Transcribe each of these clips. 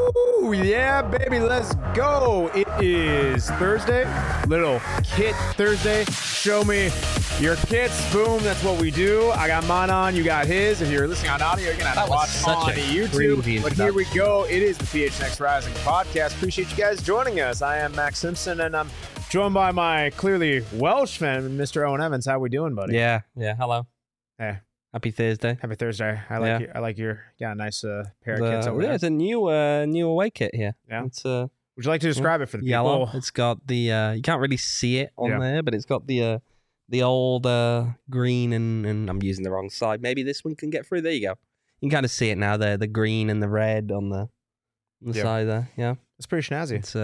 Woo! Yeah, baby, let's go. It is Thursday, Little Kit Thursday. Show me your kits. Boom, that's what we do. I got mine on, you got his. If you're listening on audio, you're going to have to watch on YouTube. But here we go. It is the PHNX Rising podcast. Appreciate you guys joining us. I am Max Simpson, and I'm joined by my clearly Welsh fan, Mr. Owen Evans. How we doing, buddy? Yeah. Hello. Hey. Happy Thursday. Happy Thursday. I like your nice pair of kits over there. It's a new away kit here. Yeah. It's Would you like to describe it for the yellow. people? It's got the you can't really see it on there, but it's got the old green and I'm using the wrong side. Maybe this one can get through. There you go. You can kind of see it now there, the green and the red on the side there. Yeah. It's pretty snazzy. It's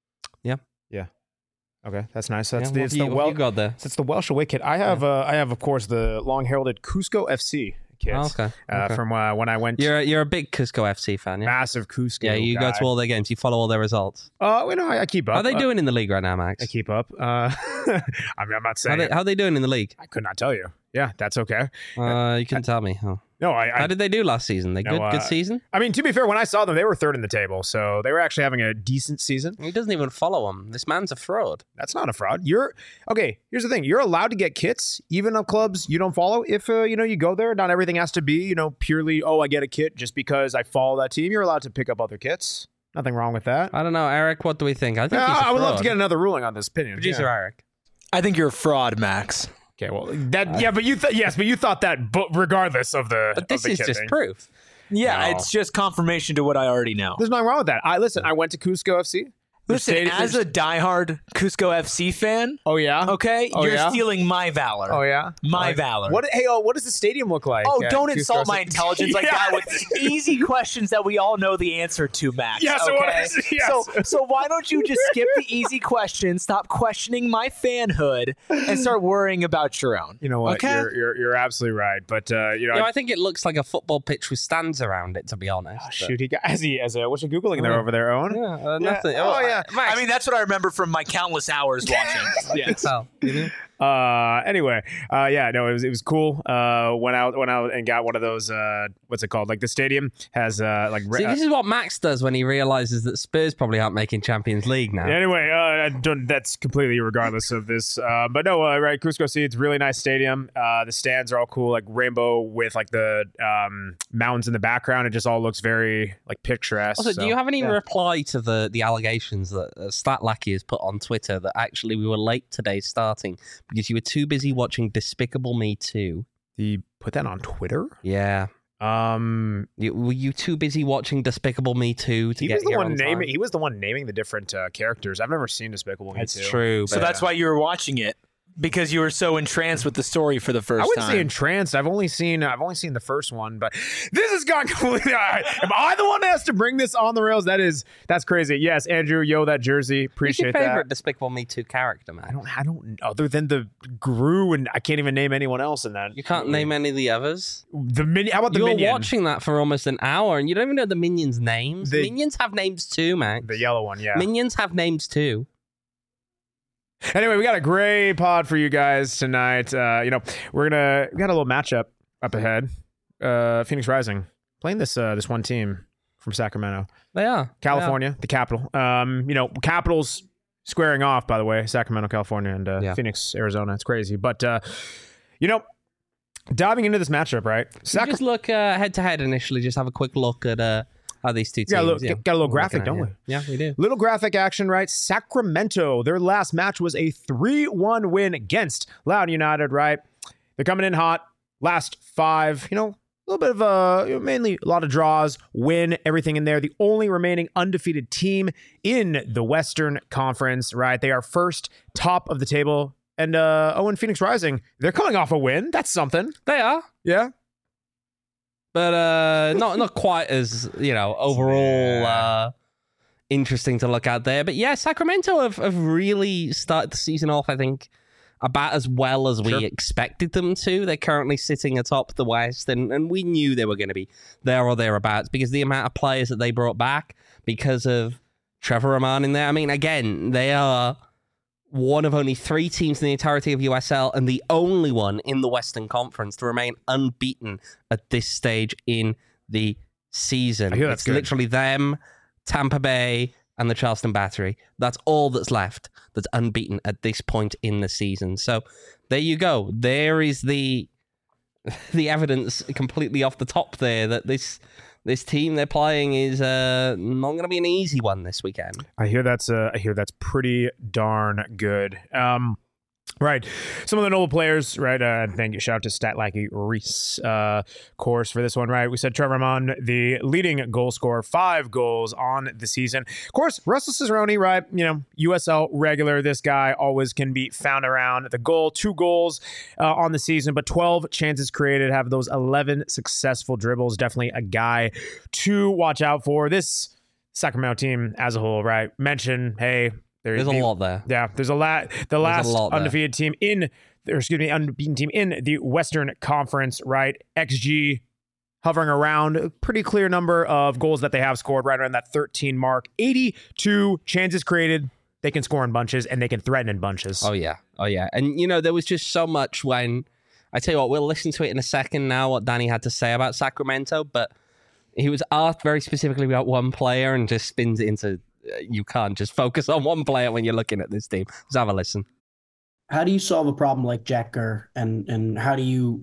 Okay, that's nice. That's what you got there? It's the Welsh away kit. I have of course the long heralded Cusco FC kits. Okay. From when I went. You're a big Cusco FC fan, yeah? Massive Cusco. Yeah, you guy. go to all their games. You follow all their results. I keep up. How are they doing in the league right now, Max? I keep up. I mean, I'm not saying. How are they doing in the league? I could not tell you. Yeah, that's okay. You can tell me. Huh? No, How did they do last season? Good season? I mean, to be fair, when I saw them, they were third in the table, so they were actually having a decent season. He doesn't even follow them. This man's a fraud. That's not a fraud. Here's the thing. You're allowed to get kits, even of clubs you don't follow. If, you go there, not everything has to be, purely, I get a kit just because I follow that team. You're allowed to pick up other kits. Nothing wrong with that. I don't know. Eric, what do we think? I think he's a I would fraud. love to get another ruling on this opinion. Producer Eric. I think you're a fraud, Max. Okay, well, but you thought that regardless of the But this of the is kit just thing. proof. Yeah, No. it's just confirmation to what I already know. There's nothing wrong with that. I went to Cusco FC. Listen, as a diehard Cusco FC fan, Oh yeah. okay, Oh, you're yeah? stealing my valor. Oh yeah. My valor. What does the stadium look like? Oh, at don't Cusco insult FC? my intelligence like Yeah. that with easy questions that we all know the answer to, Max. Yeah, so what okay? is it? Yes. So why don't you just skip the easy questions, stop questioning my fanhood, and start worrying about your own? You know what? Okay? You're absolutely right. But I think it looks like a football pitch with stands around it, to be honest. oh, shoot, he got what you googling there over there, Owen? Yeah, nothing. Oh, yeah. Max, I mean, that's what I remember from my countless hours watching. Yes. Anyway, it was cool. Went out and got one of those. What's it called? Like the stadium has See, this is what Max does when he realizes that Spurs probably aren't making Champions League now. Anyway, that's completely regardless of this. But no, right, Cusco City, it's a really nice stadium. The stands are all cool, like rainbow with like the mountains in the background. It just all looks very like picturesque. Also, do you have any reply to the allegations that Statlackey has put on Twitter that actually we were late today starting because you were too busy watching Despicable Me 2? He put that on Twitter? Yeah. Were you too busy watching Despicable Me 2 to get here on time? He was the one naming the different characters. I've never seen Despicable Me 2. That's true. So that's why you were watching it, because you were so entranced with the story for the first time. I wouldn't say entranced. I've only seen the first one, but this has gone completely. Am I the one that has to bring this on the rails? That's crazy. Yes, Andrew, that jersey. Appreciate Who's your favorite that. Despicable Me 2 character, man? I don't. Other than the Gru, and I can't even name anyone else in that. You can't name any of the others? The minion. How about the You were minion? watching that for almost an hour, and you don't even know the minions' names. Minions have names too, Max. The yellow one, yeah. Minions have names too. Anyway, we got a great pod for you guys tonight. We got a little matchup up ahead. Phoenix Rising playing this one team from Sacramento. They are California, the capital. Capitals squaring off, by the way, Sacramento, California, and Phoenix, Arizona. It's crazy. But, diving into this matchup, right? Just look head to head initially. Just have a quick look at how these two teams. Got a little graphic, don't we? Yeah, we do. Little graphic action, right? Sacramento, their last match was a 3-1 win against Loudoun United, right? They're coming in hot. Last 5, a little bit of mainly a lot of draws, win, everything in there. The only remaining undefeated team in the Western Conference, right? They are first, top of the table. And Phoenix Rising, they're coming off a win. That's something. They are. Yeah. But not quite as, overall interesting to look at there. But yeah, Sacramento have really started the season off, I think, about as well as we expected them to. They're currently sitting atop the West, and we knew they were going to be there or thereabouts because the amount of players that they brought back because of Trevor Roman in there. I mean, again, they are one of only 3 teams in the entirety of USL and the only one in the Western Conference to remain unbeaten at this stage in the season. I hear that's It's good. literally them, Tampa Bay, and the Charleston Battery. That's all that's left that's unbeaten at this point in the season. So there you go. There is the evidence completely off the top there that this team they're playing is not going to be an easy one this weekend. I hear that's pretty darn good. Right. Some of the notable players, right? Thank you. Shout out to Statlacky Reese, course for this one, right? We said Trevor Amon, the leading goal scorer, 5 goals on the season. Of course, Russell Cicerone, right? USL regular. This guy always can be found around the goal. 2 goals on the season, but 12 chances created, have those 11 successful dribbles. Definitely a guy to watch out for. This Sacramento team as a whole, right? Mention, hey, there's a lot there. Yeah, there's a lot. The last undefeated team unbeaten team in the Western Conference, right? XG hovering around a pretty clear number of goals that they have scored, right around that 13 mark. 82 chances created. They can score in bunches and they can threaten in bunches. Oh yeah. And there was just so much when I tell you what, we'll listen to it in a second now. What Danny had to say about Sacramento, but he was asked very specifically about one player and just spins it into. You can't just focus on one player when you're looking at this team. Let's have a listen. How do you solve a problem like Jack Gurr, and how do you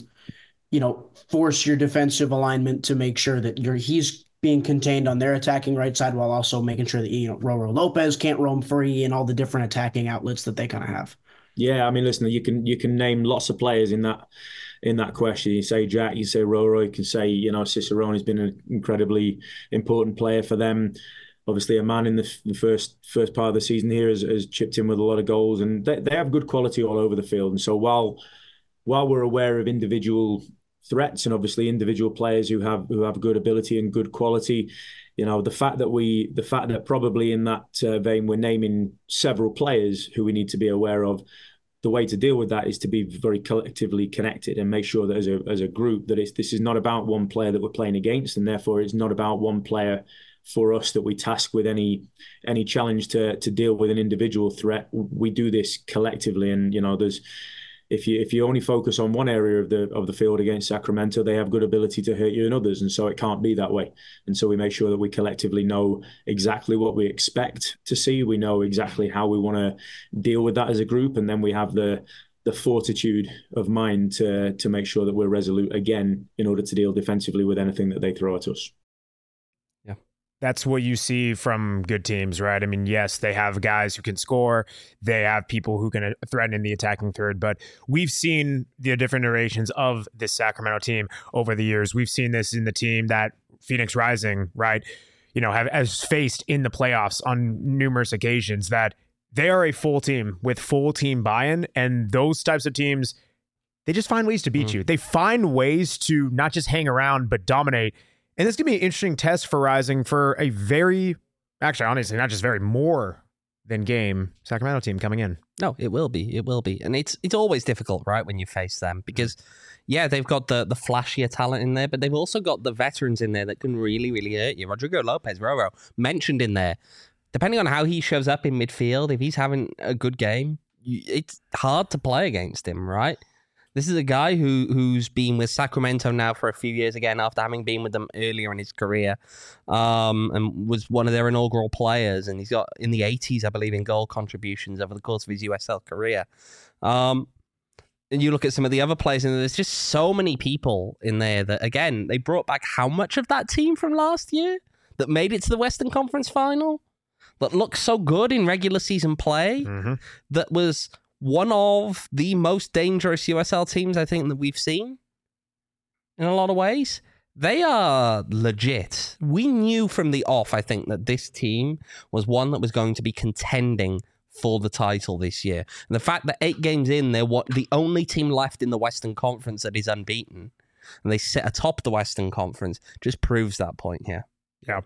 force your defensive alignment to make sure that he's being contained on their attacking right side while also making sure that Roro Lopez can't roam free and all the different attacking outlets that they kind of have? Yeah, I mean, listen, you can name lots of players in that question. You say Jack, you say Roro, you can say Cicerone has been an incredibly important player for them. Obviously, a man in the first part of the season here has chipped in with a lot of goals, and they have good quality all over the field. And so while we're aware of individual threats and obviously individual players who have good ability and good quality, the fact that probably in that vein we're naming several players who we need to be aware of. The way to deal with that is to be very collectively connected and make sure that as a group that this is not about one player that we're playing against, and therefore it's not about one player for us that we task with any challenge to deal with an individual threat. We do this collectively, and there's if you only focus on one area of the field against Sacramento, they have good ability to hurt you in others, and so it can't be that way. And so we make sure that we collectively know exactly what we expect to see. We know exactly how we want to deal with that as a group, and then we have the fortitude of mind to make sure that we're resolute again in order to deal defensively with anything that they throw at us. That's what you see from good teams, right? I mean, yes, they have guys who can score. They have people who can threaten in the attacking third. But we've seen the different iterations of this Sacramento team over the years. We've seen this in the team that Phoenix Rising, right, has faced in the playoffs on numerous occasions, that they are a full team with full team buy-in. And those types of teams, they just find ways to beat you. They find ways to not just hang around, but dominate. And this could be an interesting test for Rising for a honestly, not just more than game Sacramento team coming in. No, it will be. And it's always difficult, right, when you face them, because, yeah, they've got the flashier talent in there, but they've also got the veterans in there that can really, really hurt you. Rodrigo Lopez, Roro, mentioned in there. Depending on how he shows up in midfield, if he's having a good game, it's hard to play against him, right? This is a guy who's been with Sacramento now for a few years again after having been with them earlier in his career, and was one of their inaugural players. And he's got in the 80s, I believe, in goal contributions over the course of his USL career. And you look at some of the other players, and there's just so many people in there that, again, they brought back how much of that team from last year that made it to the Western Conference final, that looked so good in regular season play, that was one of the most dangerous USL teams, I think, that we've seen in a lot of ways. They are legit. We knew from the off, I think, that this team was one that was going to be contending for the title this year. And the fact that 8 games in, they're the only team left in the Western Conference that is unbeaten, and they sit atop the Western Conference, just proves that point here. Yeah.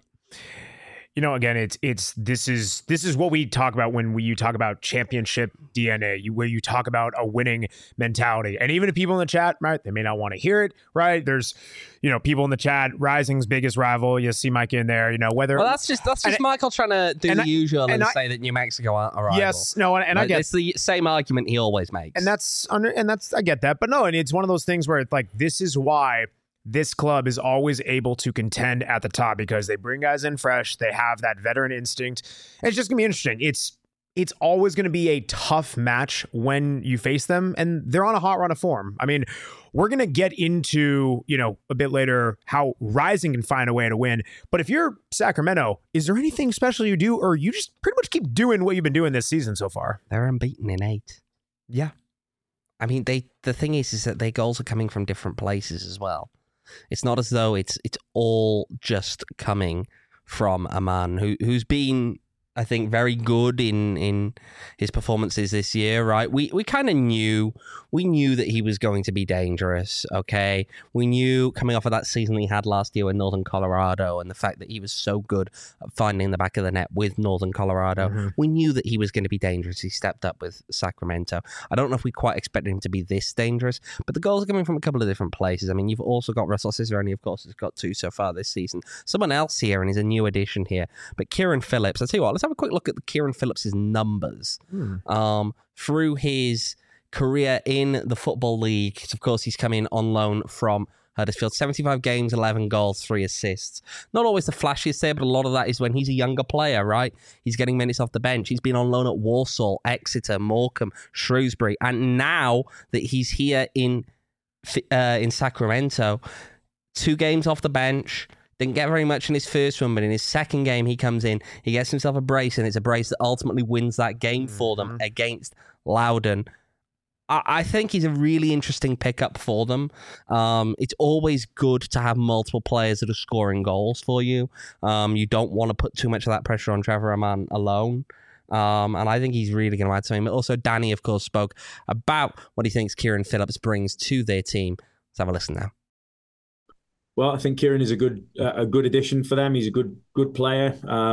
Again, this is what we talk about when you talk about championship DNA, where you talk about a winning mentality. And even if people in the chat, right, they may not want to hear it, right? There's, people in the chat, Rising's biggest rival. You see Mike in there, whether. Well, that's just Michael trying to do the usual and say that New Mexico aren't a rival. Yes, no, and I get it's the same argument he always makes, and that's I get that, but no, and it's one of those things where it's like, this is why this club is always able to contend at the top because they bring guys in fresh. They have that veteran instinct. And it's just going to be interesting. It's always going to be a tough match when you face them, and they're on a hot run of form. I mean, we're going to get into, a bit later how Rising can find a way to win. But if you're Sacramento, is there anything special you do, or you just pretty much keep doing what you've been doing this season so far? They're unbeaten in 8. Yeah. I mean, the thing is that their goals are coming from different places as well. It's not as though it's all just coming from a man who's been, I think, very good in his performances this year, right? We kind of knew that he was going to be dangerous, okay? We knew coming off of that season he had last year in Northern Colorado and the fact that he was so good at finding the back of the net with Northern Colorado. Mm-hmm. We knew that he was going to be dangerous. He stepped up with Sacramento. I don't know if we quite expected him to be this dangerous, but the goals are coming from a couple of different places. I mean, you've also got Russell Cicerone, of course, has got 2 so far this season. Someone else here, and he's a new addition here, but Kieran Phillips. I'll tell you what, let's have a quick look at Kieran Phillips' numbers through his career in the Football League. Of course, he's come in on loan from Huddersfield. 75 games, 11 goals, 3 assists. Not always the flashiest there, but a lot of that is when he's a younger player, right? He's getting minutes off the bench. He's been on loan at Walsall, Exeter, Morecambe, Shrewsbury, and now that he's here in Sacramento, 2 games off the bench. Didn't get very much in his first one, but in his second game, he comes in, he gets himself a brace, and it's a brace that ultimately wins that game for them against Loudoun. I think he's a really interesting pickup for them. It's always good to have multiple players that are scoring goals for you. You don't want to put too much of that pressure on Trevor Amann alone. And I think he's really going to add to him. Also, Danny, of course, spoke about what he thinks Kieran Phillips brings to their team. Let's have a listen now. Well, I think Kieran is a good addition for them. He's a good player.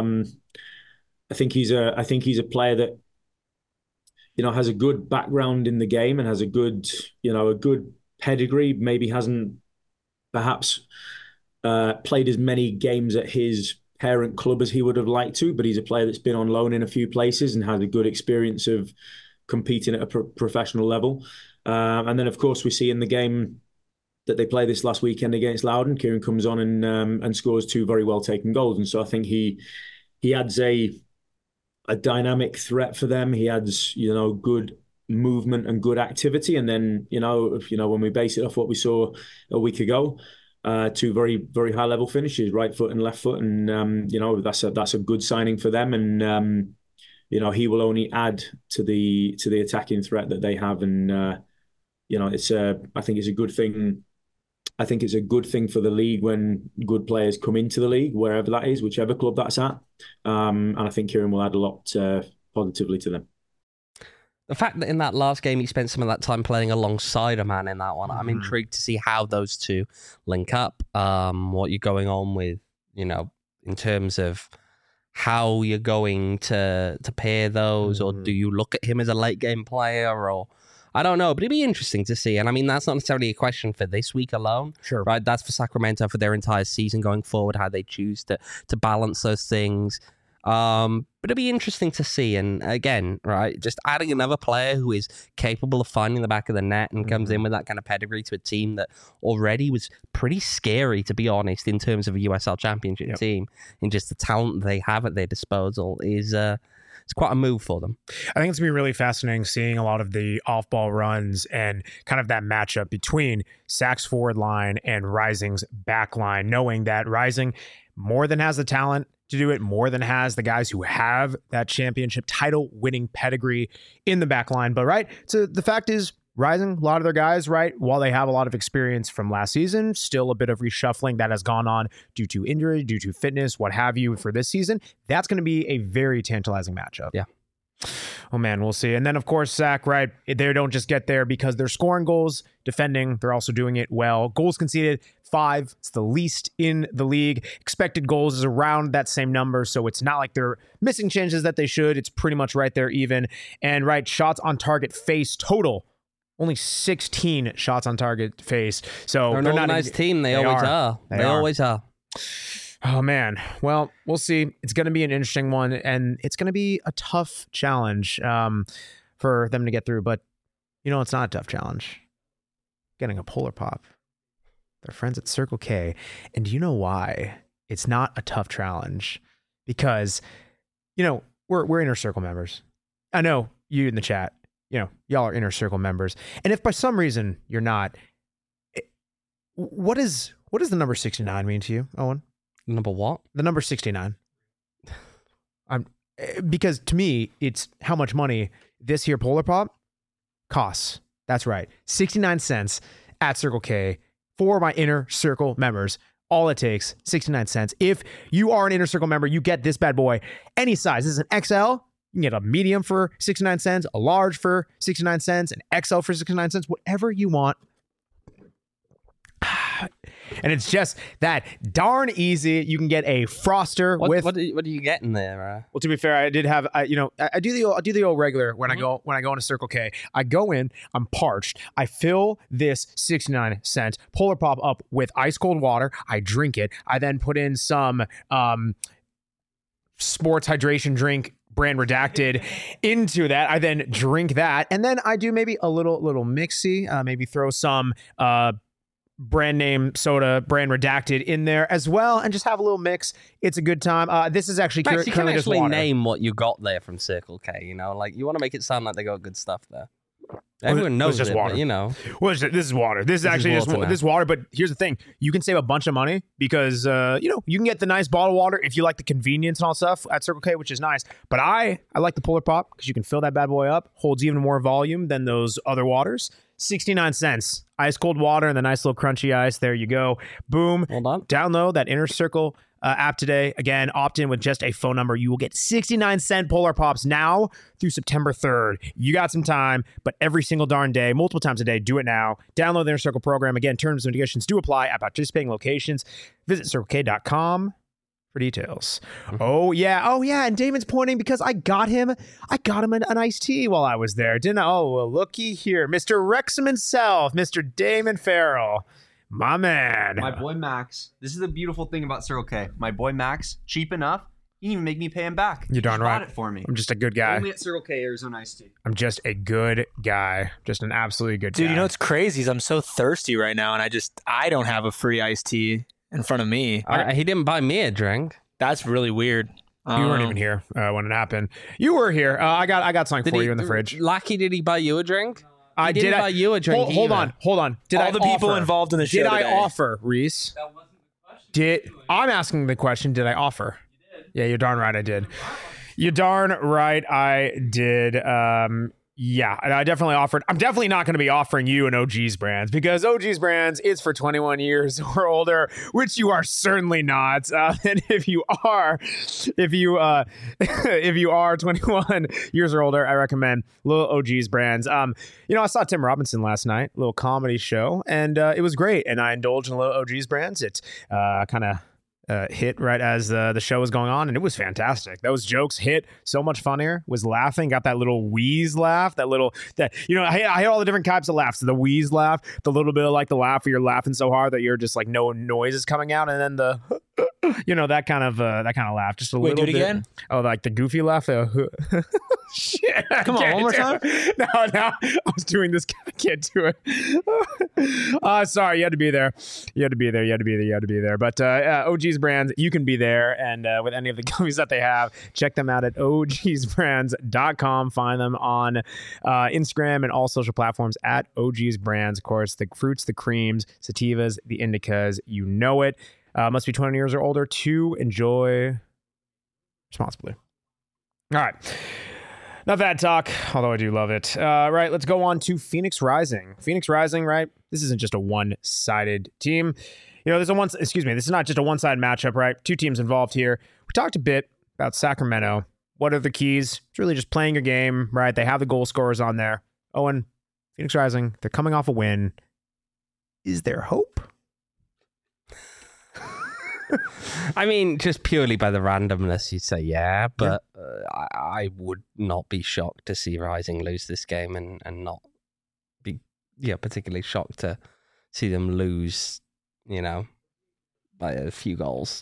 I think he's a player that has a good background in the game and has a good pedigree. Maybe hasn't perhaps played as many games at his parent club as he would have liked to, but he's a player that's been on loan in a few places and has a good experience of competing at a professional level. And then, of course, we see in the game that they play this last weekend against Loudoun, Kieran comes on and scores 2 very well taken goals. And so I think he adds a dynamic threat for them. He adds, good movement and good activity. And then, when we base it off what we saw a week ago, 2 very, very high level finishes, right foot and left foot. And, that's a good signing for them. And, he will only add to the attacking threat that they have. And, I think it's a good thing. I think it's a good thing for the league when good players come into the league, wherever that is, whichever club that's at. And I think Kieran will add a lot positively to them. The fact that in that last game he spent some of that time playing alongside a man in that one, I'm intrigued to see how those two link up, what you're going on with, in terms of how you're going to pair those, or do you look at him as a late game player, or I don't know, but it'd be interesting to see. And I mean, that's not necessarily a question for this week alone. Sure. Right? That's for Sacramento for their entire season going forward, how they choose to balance those things. But it'd be interesting to see. And again, right, just adding another player who is capable of finding the back of the net and comes in with that kind of pedigree to a team that already was pretty scary, to be honest, in terms of a USL Championship team, and just the talent they have at their disposal is it's quite a move for them. I think it's going to be really fascinating seeing a lot of the off-ball runs and kind of that matchup between Sac's forward line and Rising's back line, knowing that Rising more than has the talent to do it, more than has the guys who have that championship title winning pedigree in the back line. But right, so the fact is, Rising, a lot of their guys, right, while they have a lot of experience from last season, still a bit of reshuffling that has gone on due to injury, due to fitness, what have you for this season. That's going to be a very tantalizing matchup. Yeah. Oh, man, we'll see. And then, of course, Sac, right, they don't just get there because they're scoring goals, defending. They're also doing it well. Goals conceded, 5. It's the least in the league. Expected goals is around that same number, so it's not like they're missing chances that they should. It's pretty much right there even. And, right, shots on target face total. Only 16 shots on target face. So they're not a nice team. They always are. They always are. Oh, man. Well, we'll see. It's going to be an interesting one, and it's going to be a tough challenge for them to get through. But, it's not a tough challenge. Getting a Polar Pop. They're friends at Circle K. And do you know why it's not a tough challenge? Because, we're Inner Circle members. I know you in the chat, y'all are Inner Circle members. And if by some reason you're not, what does the number 69 mean to you, Owen? Number what? The number 69. Because to me, it's how much money this here Polar Pop costs. That's right. 69 cents at Circle K for my Inner Circle members. All it takes, 69 cents. If you are an Inner Circle member, you get this bad boy any size. This is an XL. You can get a medium for 69 cents, a large for 69 cents, an XL for 69 cents, whatever you want. And it's just that darn easy. You can get a Froster with. What do you get in there? Well, to be fair, I did have. I do the old regular when I go into Circle K. I go in. I'm parched. I fill this 69 cent Polar Pop up with ice cold water. I drink it. I then put in some sports hydration drink, brand redacted, into that. I then drink that, and then I do maybe a little mixy. Maybe throw some brand name soda, brand redacted in there as well, and just have a little mix. It's a good time. This is actually Max, you can actually water. Name what you got there from Circle K. You want to make it sound like they got good stuff there. Everyone knows just it, water. But, Well, this is water. This is actually just water. But here's the thing: you can save a bunch of money because you can get the nice bottled water if you like the convenience and all stuff at Circle K, which is nice. But I like the Polar Pop because you can fill that bad boy up, holds even more volume than those other waters. 69 cents, ice cold water and the nice little crunchy ice. There you go. Boom. Hold on. Download that Inner Circle app today. Again, opt in with just a phone number. You will get 69 cent Polar Pops now through September 3rd. You got some time, but every single darn day, multiple times a day, do it now. Download the Inner Circle program. Again, terms and conditions do apply at participating locations. Visit circlek.com for details. Oh yeah, and Damon's pointing because I got him an iced tea while I was there, didn't I? Oh, well, looky here, Mr. Wrexham himself, Mr. Damon Farrell, my man. My boy Max. This is the beautiful thing about Circle K. My boy Max, cheap enough. He didn't even make me pay him back. You're darn He right. bought it for me. I'm just a good guy. Only at Circle K Arizona iced tea. I'm just a good guy. Just an absolutely good guy. Dude, you know what's crazy is I'm so thirsty right now, and I don't have a free iced tea in front of me. He didn't buy me a drink. That's really weird. You weren't even here when it happened. You were here. I got something for you in the fridge. Lucky, did he buy you a drink? I didn't buy you a drink. Hold on. Did All the people involved in the show Did I today. offer, Reese? That wasn't the question. I'm asking the question, did I offer? You did. Yeah, you're darn right I did. You're darn right I did. Yeah, and I definitely offered. I'm definitely not going to be offering you an OG's Brands because OG's Brands is for 21 years or older, which you are certainly not. And if you are 21 years or older, I recommend little OG's Brands. I saw Tim Robinson last night, a little comedy show, and it was great. And I indulged in a little OG's Brands. It kind of hit right as the show was going on, and it was fantastic. Those jokes hit so much funnier. Was laughing, got that little wheeze laugh, I hate all the different types of laughs. The wheeze laugh, the little bit of like the laugh where you're laughing so hard that you're just like no noise is coming out, and then the that kind of laugh, just a little do it bit. again? Oh, like the goofy laugh. Shit! Come on, one more time. No, I was doing this. I can't do it. Sorry, you had to be there. You had to be there. But OG's Brands, you can be there, and with any of the gummies that they have, check them out at ogsbrands.com. Find them on Instagram and all social platforms at OG's Brands. Of course, the fruits, the creams, sativas, the indicas, you know it. Must be 20 years or older to enjoy responsibly. All right. Not bad talk, although I do love it. Right, let's go on to Phoenix Rising. Phoenix Rising, right? This isn't just a one-sided team. This is not just a one-sided matchup, right? Two teams involved here. We talked a bit about Sacramento. What are the keys? It's really just playing your game, right? They have the goal scorers on there. Owen, Phoenix Rising, they're coming off a win. Is there hope? I mean, just purely by the randomness, you'd say yeah, but I would not be shocked to see Rising lose this game and not be particularly shocked to see them lose, by a few goals.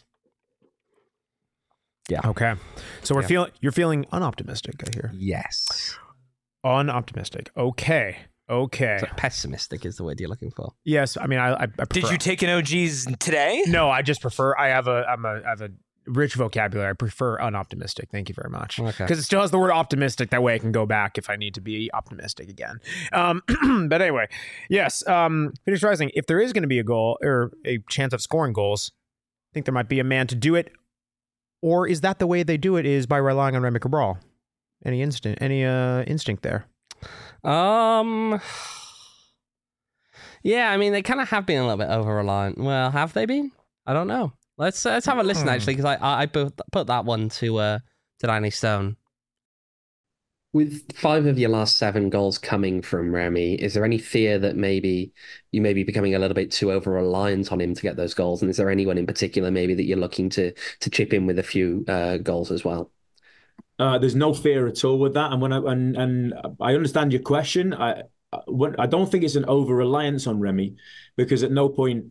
Yeah. Okay. So you're feeling unoptimistic, I hear. Yes. Unoptimistic. Okay. Okay. So pessimistic is the word you're looking for. Yes, I mean I prefer. Did you take an OGs today? No, I just prefer. I have a rich vocabulary. I prefer unoptimistic. Thank you very much. Okay. Because it still has the word optimistic. That way I can go back if I need to be optimistic again. But anyway, yes. Phoenix Rising. If there is going to be a goal or a chance of scoring goals, I think there might be a man to do it. Or is that the way they do it? Is by relying on Remy Cabral? Any instinct there? Yeah, I mean, they kind of have been a little bit over-reliant. Well, have they been? I don't know. Let's have a listen, actually, because I put that one to Danny Stone. With 5 of your last 7 goals coming from Remy, is there any fear that maybe you may be becoming a little bit too over-reliant on him to get those goals? And is there anyone in particular maybe that you're looking to chip in with a few goals as well? There's no fear at all with that, and I understand your question. I don't think it's an over-reliance on Remy, because at no point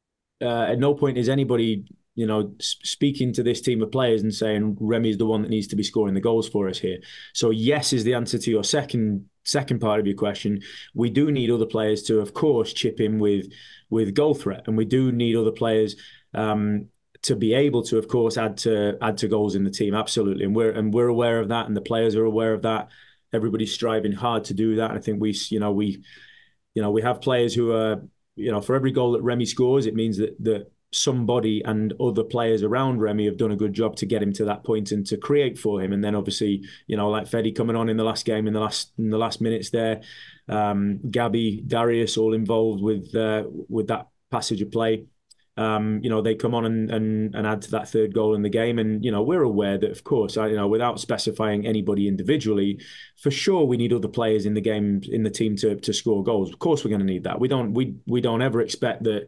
is anybody, speaking to this team of players and saying Remy is the one that needs to be scoring the goals for us here. So yes is the answer to your second part of your question. We do need other players to, of course, chip in with goal threat, and we do need other players to be able to, of course, add to goals in the team. Absolutely, and we're aware of that, and the players are aware of that. Everybody's striving hard to do that. I think we have players who are, for every goal that Remy scores, it means that somebody and other players around Remy have done a good job to get him to that point and to create for him. And then obviously, like Fede coming on in the last game, in the last minutes there, Gabby, Darius, all involved with that passage of play. They come on and add to that third goal in the game. And, we're aware that, of course, without specifying anybody individually, for sure we need other players in the game, in the team to score goals. Of course, we're going to need that. We don't ever expect that,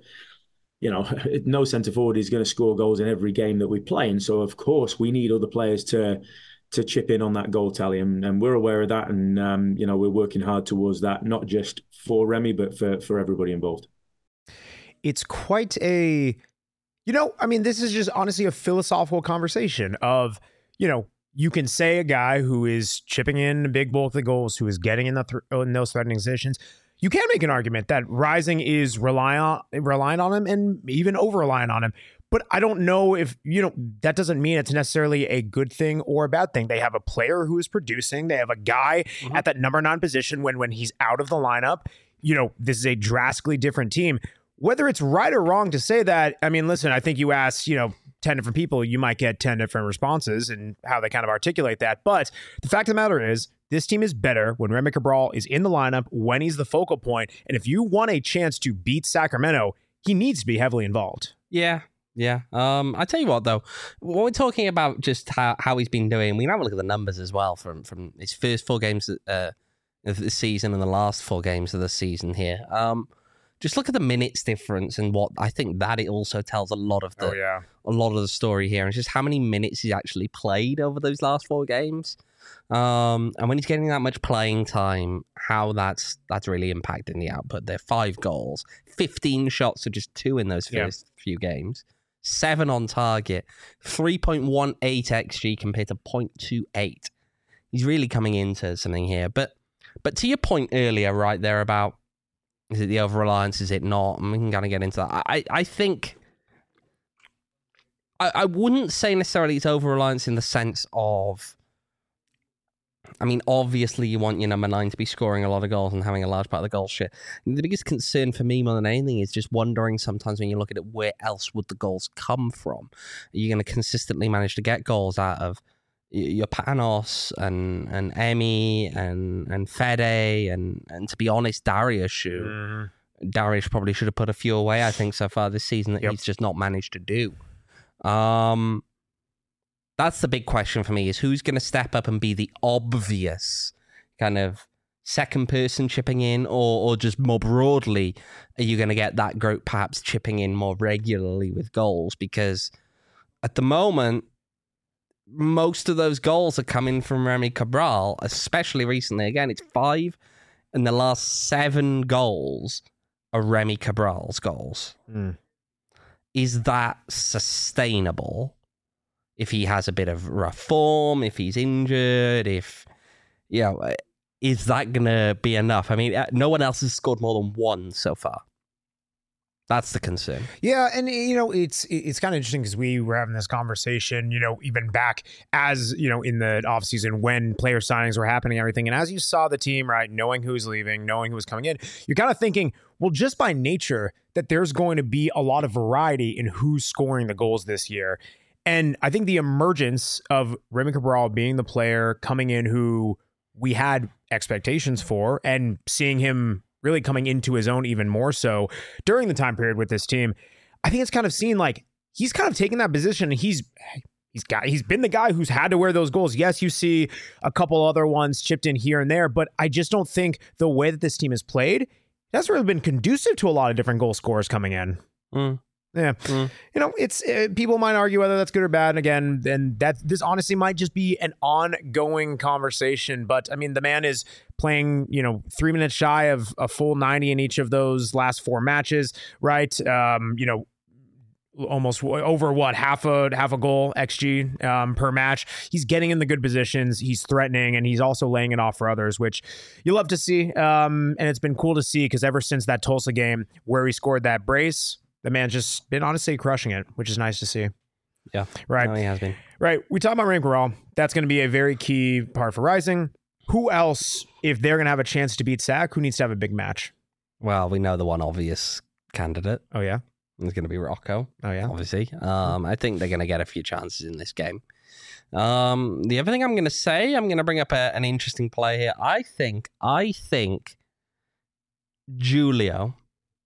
no centre forward is going to score goals in every game that we play. And so, of course, we need other players to chip in on that goal tally. And we're aware of that. And, we're working hard towards that, not just for Remy, but for everybody involved. It's quite a, this is just honestly a philosophical conversation of, you can say a guy who is chipping in a big bulk of the goals, who is getting in those threatening positions. You can make an argument that Rising is reliant on him and even over-reliant on him. But I don't know if, that doesn't mean it's necessarily a good thing or a bad thing. They have a player who is producing. They have a guy at that number 9 position when he's out of the lineup. This is a drastically different team. Whether it's right or wrong to say that, listen, I think you ask, 10 different people, you might get 10 different responses and how they kind of articulate that. But the fact of the matter is, this team is better when Remy Cabral is in the lineup, when he's the focal point. And if you want a chance to beat Sacramento, he needs to be heavily involved. Yeah. I tell you what, though, when we're talking about just how he's been doing, we can have a look at the numbers as well from his first 4 games of the season and the last 4 games of the season here. Just look at the minutes difference, and what I think that it also tells a lot of the story here, and just how many minutes he's actually played over those last 4 games. And when he's getting that much playing time, how that's really impacting the output. There 5 goals, 15 shots, so just 2 in those first few games, 7 on target, 3.18 XG compared to 0.28. He's really coming into something here. But to your point earlier, right there about, is it the over-reliance? Is it not? And we can kind of get into that. I think I wouldn't say necessarily it's over-reliance in the sense of, obviously you want your number 9 to be scoring a lot of goals and having a large part of the goal share. The biggest concern for me more than anything is just wondering sometimes when you look at it, where else would the goals come from? Are you going to consistently manage to get goals out of your Panos and Emi and Fede and to be honest, Darius, Darius probably should have put a few away, I think, so far this season that he's just not managed to do. That's the big question for me, is who's going to step up and be the obvious kind of second person chipping in, or just more broadly, are you going to get that group perhaps chipping in more regularly with goals? Because at the moment, most of those goals are coming from Remy Cabral, especially recently. Again, it's 5, and the last 7 goals are Remy Cabral's goals. Is that sustainable? If he has a bit of rough form, if he's injured, if is that going to be enough? I mean, no one else has scored more than one so far. That's the concern. Yeah, and it's kind of interesting because we were having this conversation, even back as, in the offseason when player signings were happening and everything. And as you saw the team, right, knowing who's leaving, knowing who's coming in, you're kind of thinking, well, just by nature that there's going to be a lot of variety in who's scoring the goals this year. And I think the emergence of Remy Cabral being the player coming in who we had expectations for, and seeing him really coming into his own even more so during the time period with this team, I think it's kind of seen like he's kind of taken that position, and he's been the guy who's had to wear those goals. Yes, you see a couple other ones chipped in here and there, but I just don't think the way that this team has played has really been conducive to a lot of different goal scorers coming in. Yeah. It's people might argue whether that's good or bad. And again, then this honestly might just be an ongoing conversation. But I mean, the man is playing, 3 minutes shy of a full 90 in each of those last 4 matches, right? Almost over half a goal XG per match. He's getting in the good positions. He's threatening, and he's also laying it off for others, which you love to see. And it's been cool to see because ever since that Tulsa game where he scored that brace, the man's just been honestly crushing it, which is nice to see. Yeah. Right. No, he has been. Right. We talk about Remy Cabral. That's going to be a very key part for Rising. Who else, if they're going to have a chance to beat Sac, who needs to have a big match? Well, we know the one obvious candidate. Oh, yeah? It's going to be Rocco. Oh, yeah? Obviously. I think they're going to get a few chances in this game. The other thing I'm going to say, I'm going to bring up an interesting play here. I think Julio.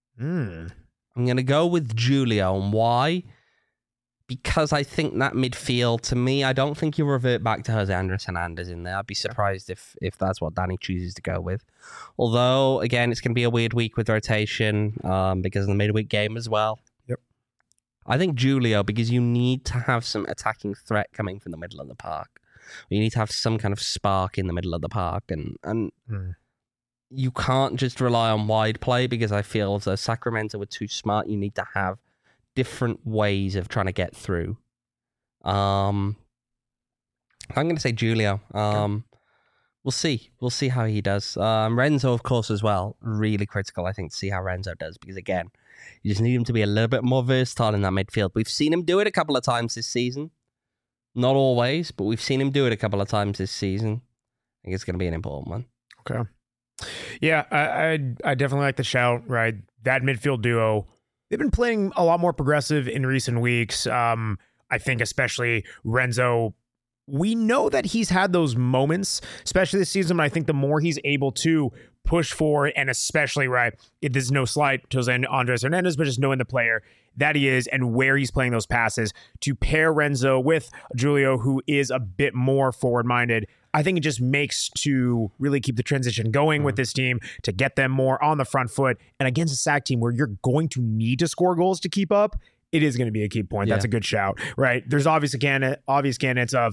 I'm going to go with Julio. And why? Because I think that midfield, to me, I don't think you revert back to Jose Andres Hernandez in there. I'd be surprised if that's what Danny chooses to go with. Although, again, it's going to be a weird week with rotation because of the midweek game as well. Yep. I think Julio, because you need to have some attacking threat coming from the middle of the park. You need to have some kind of spark in the middle of the park. And you can't just rely on wide play, because I feel as though Sacramento were too smart. You need to have different ways of trying to get through. I'm going to say Julio. We'll see. We'll see how he does. Renzo, of course, as well. Really critical, I think, to see how Renzo does, because, again, you just need him to be a little bit more versatile in that midfield. We've seen him do it a couple of times this season. Not always, but we've seen him do it a couple of times this season. I think it's going to be an important one. Okay. Yeah, I definitely like the shout, right? That midfield duo, they've been playing a lot more progressive in recent weeks. I think especially Renzo, we know that he's had those moments, especially this season, but I think the more he's able to push forward, and especially, right, there's no slight to Andres Hernandez, but just knowing the player that he is and where he's playing those passes, to pair Renzo with Julio, who is a bit more forward-minded, I think it just makes to really keep the transition going with this team, to get them more on the front foot. And against a Sac team where you're going to need to score goals to keep up, it is going to be a key point. Yeah. That's a good shout, right? There's obvious candidates of,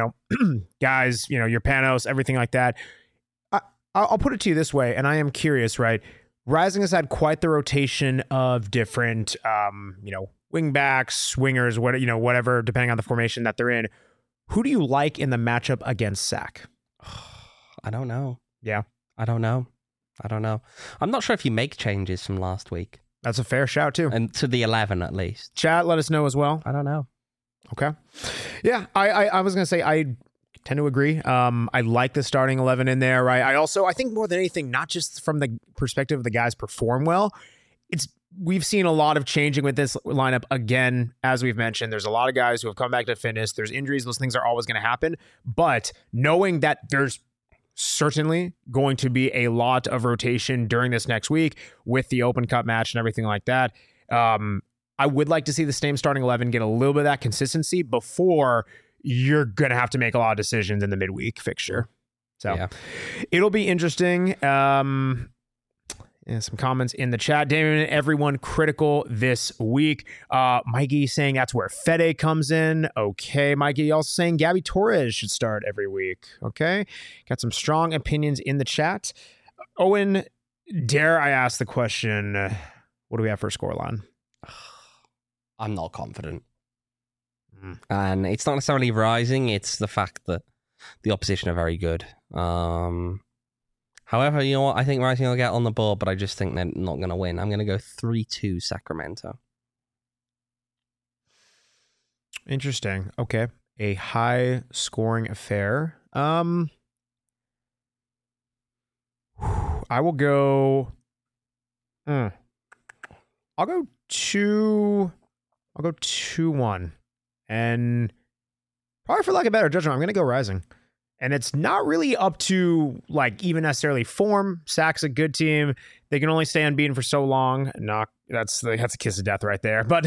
guys, your Panos, everything like that. I'll put it to you this way, and I am curious, right? Rising has had quite the rotation of different, wing backs, swingers, whatever, depending on the formation that they're in. Who do you like in the matchup against Sac? I don't know. Yeah. I don't know. I'm not sure if you make changes from last week. That's a fair shout, too. And to the 11, at least. Chat, let us know as well. I don't know. Okay. Yeah, I was going to say, I tend to agree. I like the starting 11 in there, right? I think more than anything, not just from the perspective of the guys perform well, we've seen a lot of changing with this lineup. Again, as we've mentioned, there's a lot of guys who have come back to fitness. There's injuries. Those things are always going to happen. But knowing that there's certainly going to be a lot of rotation during this next week with the Open Cup match and everything like that, I would like to see the same starting 11 get a little bit of that consistency before you're going to have to make a lot of decisions in the midweek fixture. So yeah. It'll be interesting. And some comments in the chat. Damien, everyone critical this week. Mikey saying that's where Fede comes in. Okay, Mikey also saying Gabby Torres should start every week. Okay, got some strong opinions in the chat. Owen, dare I ask the question, what do we have for a scoreline? I'm not confident. And it's not necessarily Rising, it's the fact that the opposition are very good. However, you know what? I think Rising will get on the board, but I just think they're not going to win. I'm going to go 3-2 Sacramento. Interesting. Okay. A high scoring affair. I will go. I'll go 2-1. And probably for like a better judgment, I'm going to go Rising. And it's not really up to like even necessarily form. Sac's a good team. They can only stay unbeaten for so long. That's a kiss of death right there. But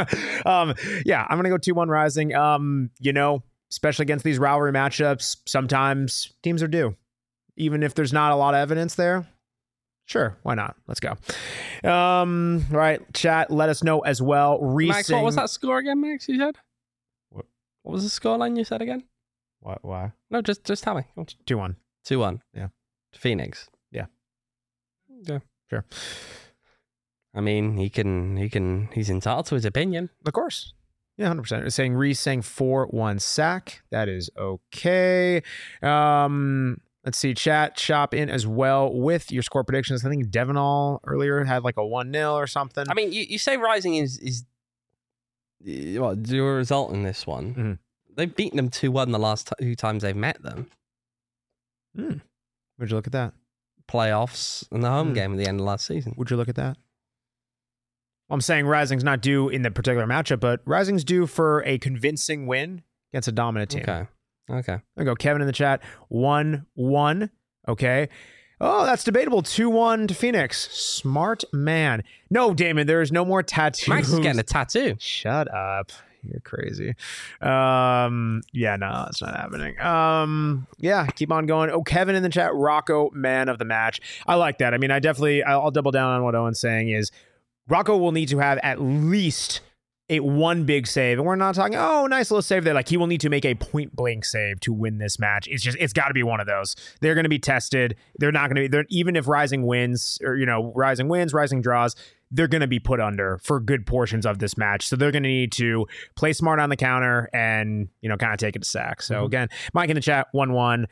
yeah, I'm gonna go 2-1 Rising. Especially against these rivalry matchups, sometimes teams are due, even if there's not a lot of evidence there. Sure, why not? Let's go. Right, chat. Let us know as well. Max, what was that score again, Max? You said what was the scoreline you said again? What? Why? No, just tell me. 2-1. 2-1. Yeah. To Phoenix. Yeah. Yeah. Sure. I mean, he's entitled to his opinion. Of course. Yeah, 100%. It's saying Reese saying 4-1 sack. That is okay. Let's see. Chat, shop in as well with your score predictions. I think Devenol earlier had like a 1-0 or something. I mean, you say Rising is what do a result in this one? Mm-hmm. They've beaten them 2-1 the last 2 times they've met them. Would you look at that? Playoffs and the home game at the end of last season. Would you look at that? I'm saying Rising's not due in the particular matchup, but Rising's due for a convincing win against a dominant team. Okay. There we go. Kevin in the chat. 1-1. Okay. Oh, that's debatable. 2-1 to Phoenix. Smart man. No, Damon, there is no more tattoos. Max is getting a tattoo. Shut up. You're crazy. Yeah, no, it's not happening. Yeah, keep on going. Oh, Kevin in the chat, Rocco, man of the match. I like that. I mean, I'll double down on what Owen's saying is Rocco will need to have at least one big save. And we're not talking, nice little save there. Like, he will need to make a point blank save to win this match. It's got to be one of those. They're going to be tested. They're not going to be, even if Rising wins or, Rising wins, Rising draws, they're going to be put under for good portions of this match. So they're going to need to play smart on the counter and, kind of take it to sack. So again, Mike in the chat, 1-1.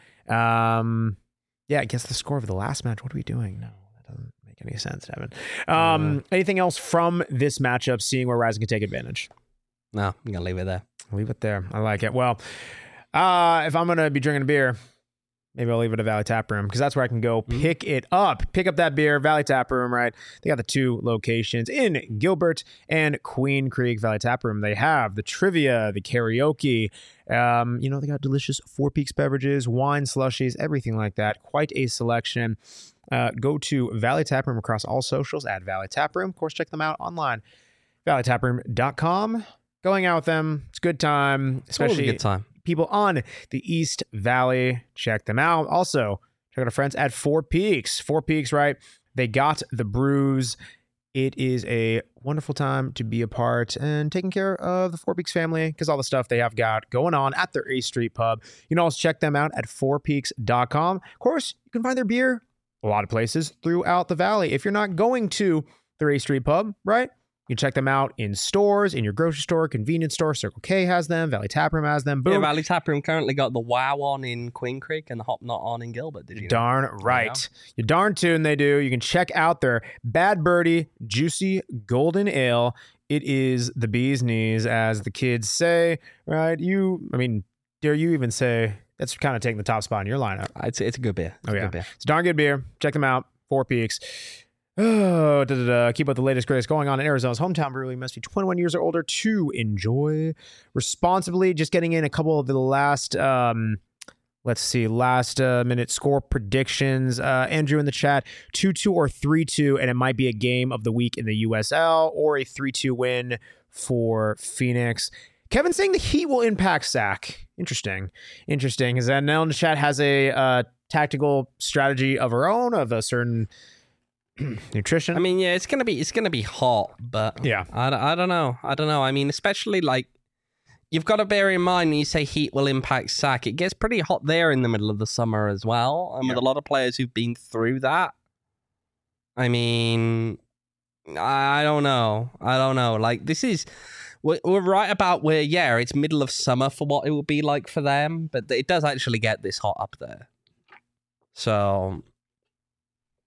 Yeah, I guess the score of the last match. What are we doing? No, that doesn't make any sense, Evan. Anything else from this matchup, seeing where Rising can take advantage? No, I'm going to leave it there. Leave it there. I like it. Well, if I'm going to be drinking a beer, maybe I'll leave it at Valley Tap Room because that's where I can go pick it up. Pick up that beer, Valley Tap Room, right? They got the 2 locations in Gilbert and Queen Creek. Valley Tap Room. They have the trivia, the karaoke. They got delicious Four Peaks beverages, wine, slushies, everything like that. Quite a selection. Go to Valley Tap Room across all socials at Valley Tap Room. Of course, check them out online. ValleyTapRoom.com. Going out with them. It's a good time. Especially a good time. People on the East Valley, check them out. Also, check out our friends at Four Peaks. Four Peaks, right? They got the brews. It is a wonderful time to be a part and taking care of the Four Peaks family because all the stuff they have got going on at their A Street Pub. You can also check them out at fourpeaks.com. Of course, you can find their beer a lot of places throughout the valley. If you're not going to their A Street Pub, right? You can check them out in stores, in your grocery store, convenience store. Circle K has them. Valley Tap Room has them. Boom. Yeah, Valley Tap Room currently got the Wow on in Queen Creek and the Hop Not on in Gilbert. Did you know? Darn right. Yeah. You're darn tune they do. You can check out their Bad Birdie Juicy Golden Ale. It is the bee's knees, as the kids say, right? Dare you even say that's kind of taking the top spot in your lineup? It's a good beer. It's a darn good beer. Check them out. Four Peaks. Keep up the latest greatest going on in Arizona's hometown brewery. Must be 21 years or older to enjoy responsibly. Just getting in a couple of the last minute score predictions. Andrew in the chat, 2-2 or 3-2, and it might be a game of the week in the USL or a 3-2 win for Phoenix. Kevin saying the Heat will impact Sac. Interesting. Is that Nell in the chat has a tactical strategy of her own of a certain nutrition. I mean, yeah, it's gonna be hot, but yeah, I don't know. I mean, especially like you've got to bear in mind when you say Heat will impact Sac, it gets pretty hot there in the middle of the summer as well, and with a lot of players who've been through that. I mean, I don't know. Like this is. We're right about where, it's middle of summer for what it will be like for them, but it does actually get this hot up there. So,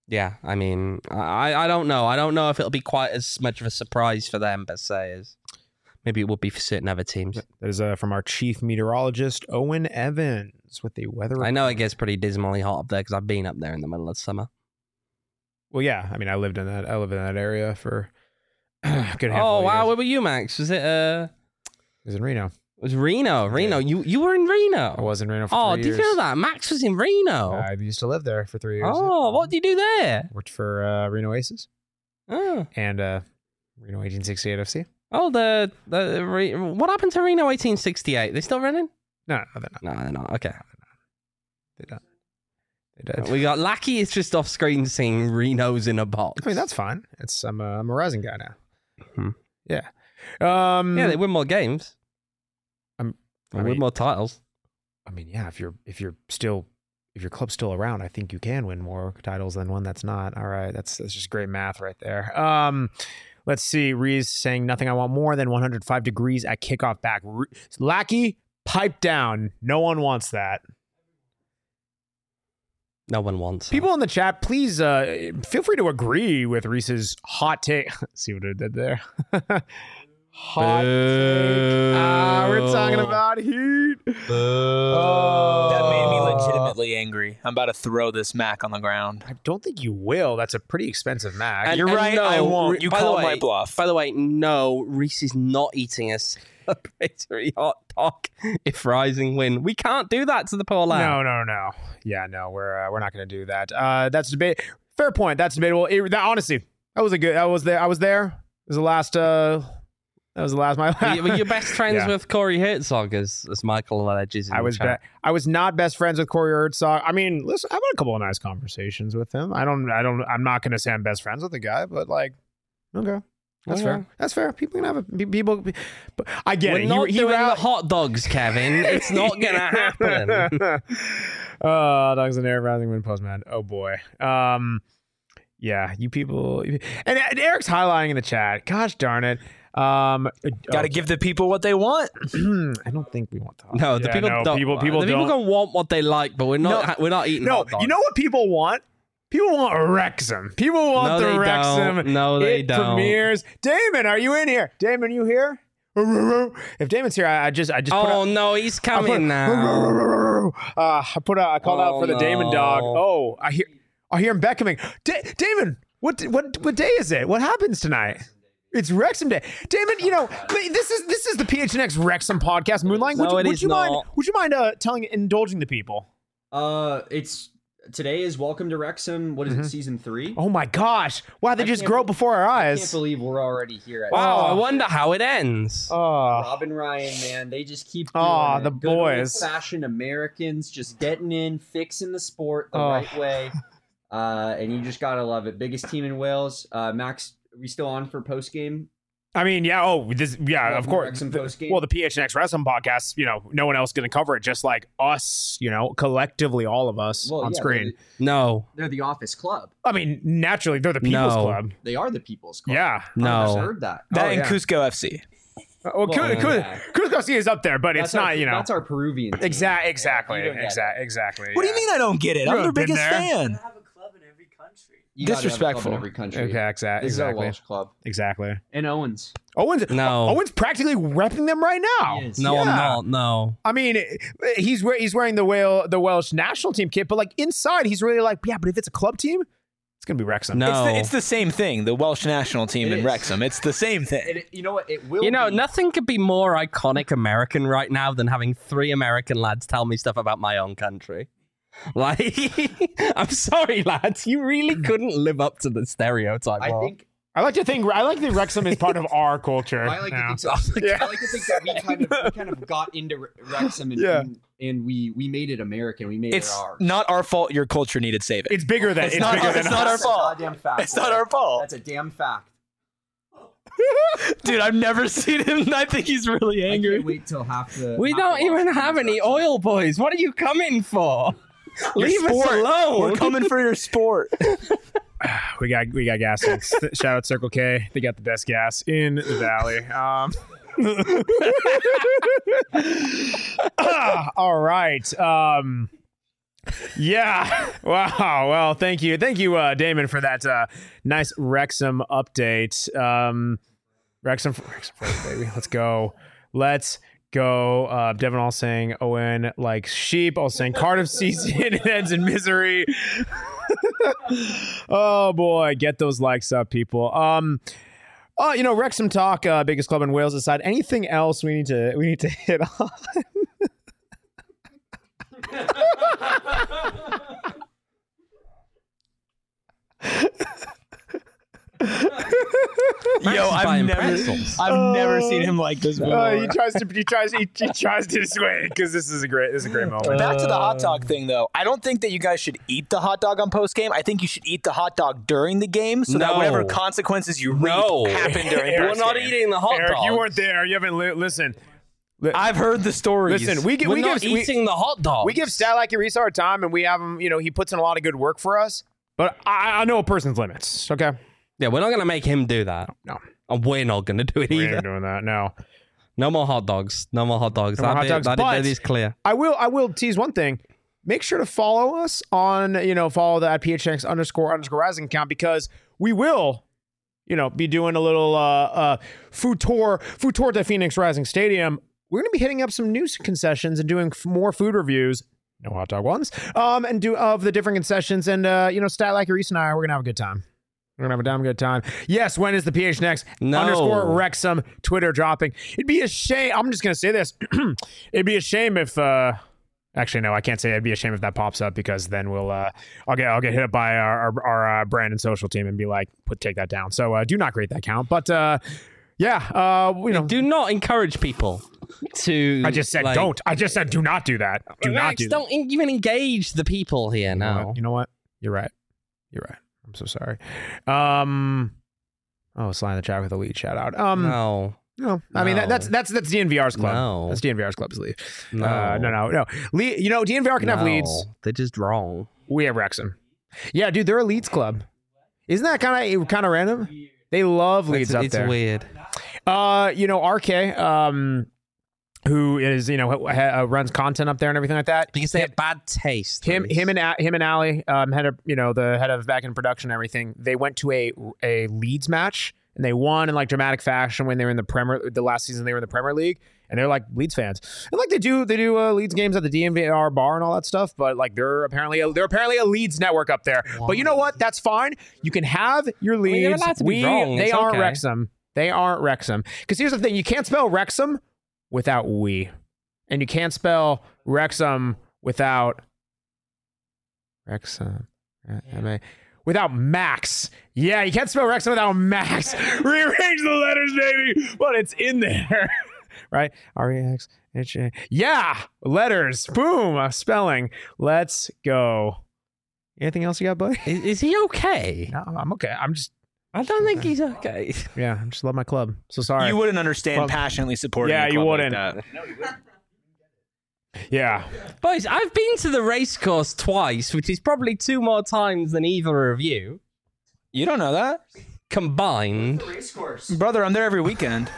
Yeah, I mean, I don't know. I don't know if it'll be quite as much of a surprise for them, per se, as maybe it would be for certain other teams. That is from our chief meteorologist, Owen Evans, with the weather. I know it gets pretty dismally hot up there because I've been up there in the middle of summer. Well, yeah. I mean, I live in that area for a good handful Oh of wow, years. where were you, Max? Was it It was in Reno. It was Reno. Reno. You were in Reno. I was in Reno for 3 did years. you know that? Max was in Reno. I used to live there for 3 years. Oh, what did you do there? Worked for Reno Aces Oh, and Reno 1868 FC. oh what happened to Reno 1868? They still running? No, they're not. No, they're not. Okay. They don't. They did. We got Lackey is just off screen saying Reno's in a box. I mean, that's fine. I'm a Rising guy now. Hmm. Yeah. Yeah, they win more games. I They win mean, more titles. I mean, yeah. If your club's still around, I think you can win more titles than one that's not. All right, that's just great math right there. Let's see. Reese saying nothing. I want more than 105 degrees at kickoff back. Lackey, pipe down. No one wants that. No one wants. People in the chat, please feel free to agree with Reese's hot take. See what I did there? Hot take. We're talking about heat. That made me legitimately angry. I'm about to throw this Mac on the ground. I don't think you will. That's a pretty expensive Mac. And- You're and right. no, I won't. You by the called way- my bluff. By the way, no, Reese is not eating a celebratory hot dog if Rising win. We can't do that to the poor lad. No. Yeah, no, we're not going to do that. That's debate. Fair point. That's debatable. Honestly, that was a good. I was there. It was the last. That was the last. Were you best friends Yeah. with Corey Herzog, as Michael alleges? I was not best friends with Corey Herzog. I mean, listen, I've had a couple of nice conversations with him. I'm not going to say I'm best friends with the guy, but like, okay. That's Okay. fair. That's fair. People can have people. But I get We're it. not doing ran- the hot dogs, Kevin. It's not gonna happen. Dogs and Air Rising Wind Postman. Oh boy. Yeah, you people. And Eric's highlighting in the chat. Gosh darn it. Got to give the people what they want. I don't think we want to. No, the people don't. People the don't. people can want what they like, but we're not. We're not eating. No, hot dogs. you know what people want? People want Wrexham. People want No, the they Wrexham. don't. No, they it don't. Premieres. Damon, are you in here? Damon, you here? If Damon's here, I just put Oh out, no, he's coming now. I called out for the Damon dog. no. Oh, I hear him beckoning. Damon, what day is it? What happens tonight? It's Wrexham Day. Damon, this is the PHNX Wrexham podcast, Moonlight. No, it would is you mind? not. Would you mind indulging the people? Today is Welcome to Wrexham. What is it, season 3? Oh my gosh! Wow, they I just can't grow be- before our I eyes. can't believe we're already here at Wow, I Oh. wonder how it ends. Oh, Robin Ryan, man. They just keep doing Oh, it. the Good boys. old-fashioned Americans just getting in, fixing the sport the Oh. right way. And you just gotta love it. Biggest team in Wales. Max, are we still on for post game? I mean, yeah. Oh, of course. Wrexham postgame? Well, the PHNX Wrestling podcast. No one else going to cover it, just like us. Collectively, all of us on screen. No, They're the Office Club. I mean, naturally, they're the People's No. Club. They are the People's Club. Yeah. no. I've heard that. That Oh, and yeah. Cusco FC. Well, yeah. Cusco is up there, but it's not. That's our Peruvian team. Exactly. You don't get it. Exactly. What do you mean I don't get it? You I'm their have been biggest there. fan. You gotta have a club Disrespectful. in every country. Okay. This is our Exactly. Welsh club. Exactly. And Owens. No. Owens practically repping them right now. He is. No, I'm Yeah. not. No. I mean, he's wearing the Welsh national team kit, but like inside, he's really like, yeah. But if it's a club team, it's gonna be Wrexham. No. It's the same thing. The Welsh national team It in is. Wrexham. It's the same thing. You know what? It will. You know, be. nothing could be more iconic American right now than having 3 American lads tell me stuff about my own country. Like, I'm sorry, lads, you really couldn't live up to the stereotype. I think. I like that Wrexham is part of our culture. I like to now. think so. Yeah. I like to think that we kind of got into Wrexham and, Yeah. and we made it American. We made It's it ours. not our fault your culture needed saving. It's bigger than It's not bigger our- than it's not our That's a fault. goddamn fact. It's not our fault. That's a damn fact. Dude, I've never seen him, and I think he's really I angry. can't wait till half the. we half don't the even Washington have any Wrexham. oil boys. What are you coming for? Leave us sport. alone. We're coming for your sport. We got gas. Shout out Circle K. They got the best gas in the valley. All right. Yeah. Wow. Well, thank you, Damon, for that nice Wrexham update. Wrexham, baby. Let's go. Devin all saying Owen like sheep. All saying Cardiff season ends in misery. Oh boy, get those likes up, people. Wrexham talk, biggest club in Wales aside. Anything else we need to hit on? Yo, I've never seen him like this before. He tries to sway because this is a great moment. Back to the hot dog thing, though. I don't think that you guys should eat the hot dog on post game. I think you should eat the hot dog during the game, so that whatever consequences you reap happen during. We're not eating the hot dog. You weren't there. You haven't listened. I've heard the stories. Listen, we're not eating the hot dog. We give Statlacky Reese our time, and we have him. He puts in a lot of good work for us. But I know a person's limits. Okay. Yeah, we're not going to make him do that. No. And we're not going to do it either. We're not doing that, no. No more hot dogs. No more hot dogs. That is clear. I will tease one thing. Make sure to follow us on, follow the @PHNX__rising account, because we will, be doing a little food tour to Phoenix Rising Stadium. We're going to be hitting up some new concessions and doing more food reviews. No hot dog ones. And of the different concessions. And, Statlacky Reese and I, we're going to have a good time. We're going to have a damn good time. Yes, when is the PHNX _Wrexham Twitter dropping? It'd be a shame. I'm just going to say this. It'd be a shame if... actually, no, I can't say it'd be a shame if that pops up, because then we'll... I'll get hit up by our brand and social team and be like, take that down. So do not create that account. But, do not encourage people to... I just said don't. I just said do not do that. Do not do that. Don't even engage the people here now. You know what? You're right. I'm so sorry. Slide in the chat with a lead shout out. No. I mean that's DNVR's club. No. That's DNVR's club's lead. No. DNVR can have leads. They're just wrong. We have Wrexham. Yeah, dude, they're a leads club. Isn't that kind of random? They love leads up there. It's weird. RK, who is runs content up there and everything like that, because they have bad taste. Him and Ali, head of the head of back end production and everything. They went to a Leeds match and they won in like dramatic fashion when they were in the last season they were in the Premier League, and they're like Leeds fans, and like they do Leeds games at the DNVR bar and all that stuff. But like they're apparently a Leeds network up there. Wow. But you know what? That's fine. You can have your Leeds. They aren't Wrexham. They aren't Wrexham. Because here's the thing: you can't spell Wrexham without we, and you can't spell Wrexham without Wrexham. Without Max. Yeah, you can't spell Wrexham without Max. Rearrange the letters, baby. But it's in there. Right? R-E-X-H-A. Yeah, letters. Boom. Spelling. Let's go. Anything else you got, buddy? Is he okay? No, I'm okay. I don't think he's okay. Yeah, I just love my club. So sorry. You wouldn't understand passionately supporting a club you wouldn't. like that. No, you wouldn't. Yeah. Boys, I've been to the race course twice, which is probably 2 more times than either of you. You don't know that? Combined. Brother, I'm there every weekend.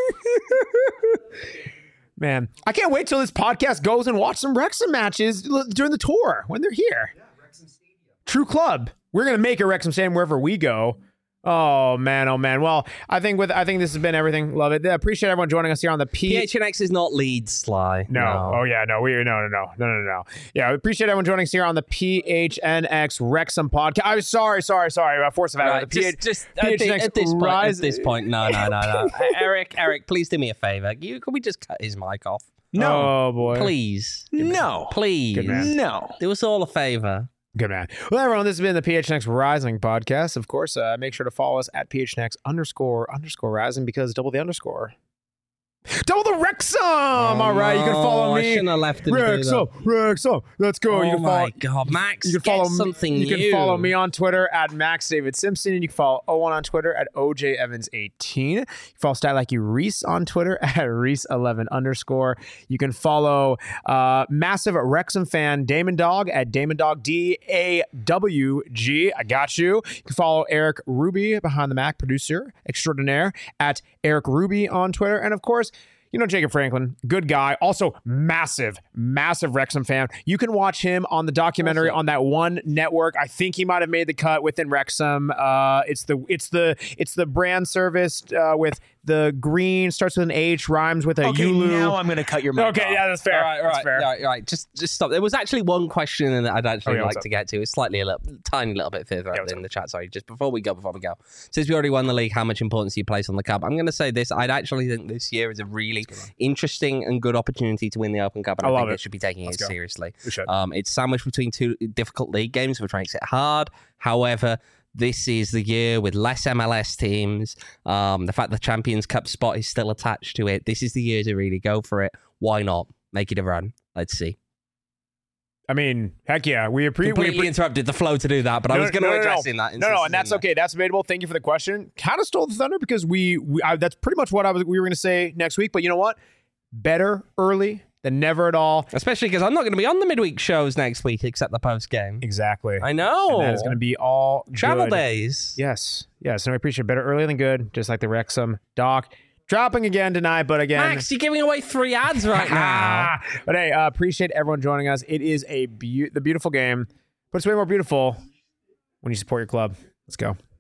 Man, I can't wait till this podcast goes and watch some Wrexham matches during the tour when they're here. Yeah, Wrexham Stadium. True club. We're going to make a Wrexham Stadium wherever we go. Oh man. Well, I think this has been everything. Love it. Appreciate everyone joining us here on the PHNX is not Leeds, Sly. No. Oh yeah, no. No. Yeah, we appreciate everyone joining us here on the PHNX Wrexham podcast. I'm sorry. Force of habit. At this point, no. Eric, please do me a favor. Can we just cut his mic off? No. Oh boy. Please. No. Please. Good man. No. Do us all a favor. Good man. Well, everyone, this has been the PHNX Rising podcast. Of course, make sure to follow us at PHNX __Rising, because double the underscore. Double the Wrexham! All right, you can follow me. I shouldn't have left it. Wrexham. Let's go. Oh my God, Max, you can follow something new. You can follow me on Twitter at Max David Simpson, and you can follow Owen on Twitter at OJ Evans18. You can follow Statlacky Reese on Twitter at Reese11_. You can follow massive Wrexham fan Damon Dog at Damon Dog DAWG. I got you. You can follow Eric Ruby behind the Mac, producer extraordinaire, at Eric Ruby on Twitter, and of course, You know Jacob Franklin, good guy. Also, massive Wrexham fan. You can watch him on the documentary on that one network. I think he might have made the cut within Wrexham. It's the brand service with the green, starts with an H, rhymes with a Ulu. Now I'm going to cut your mic Okay, off. yeah, that's fair. All right. Just stop. There was actually one question that I'd actually like to get to. It's slightly tiny little bit further up in the chat. Sorry, just before we go. Since we already won the league, how much importance do you place on the cup? I'm going to say this. I'd actually think this year is a really interesting and good opportunity to win the Open Cup, and I think they should be taking it seriously. We should. It's sandwiched between two difficult league games, which makes it hard. However, this is the year with less MLS teams. The fact the Champions Cup spot is still attached to it. This is the year to really go for it. Why not? Make it a run. Let's see. I mean, heck yeah. We completely interrupted the flow to do that, but I was going to address in that. No, and that's okay. That's debatable. Thank you for the question. Kind of stole the thunder because that's pretty much what we were going to say next week. But you know what? Better early than never at all. Especially because I'm not going to be on the midweek shows next week except the post game. Exactly. I know. And that is going to be all travel good. days. Yes. And I appreciate better early than good, just like the Wrexham doc. Dropping again tonight, but again... Max, you're giving away 3 ads right now. But hey, appreciate everyone joining us. It is the beautiful game, but it's way more beautiful when you support your club. Let's go.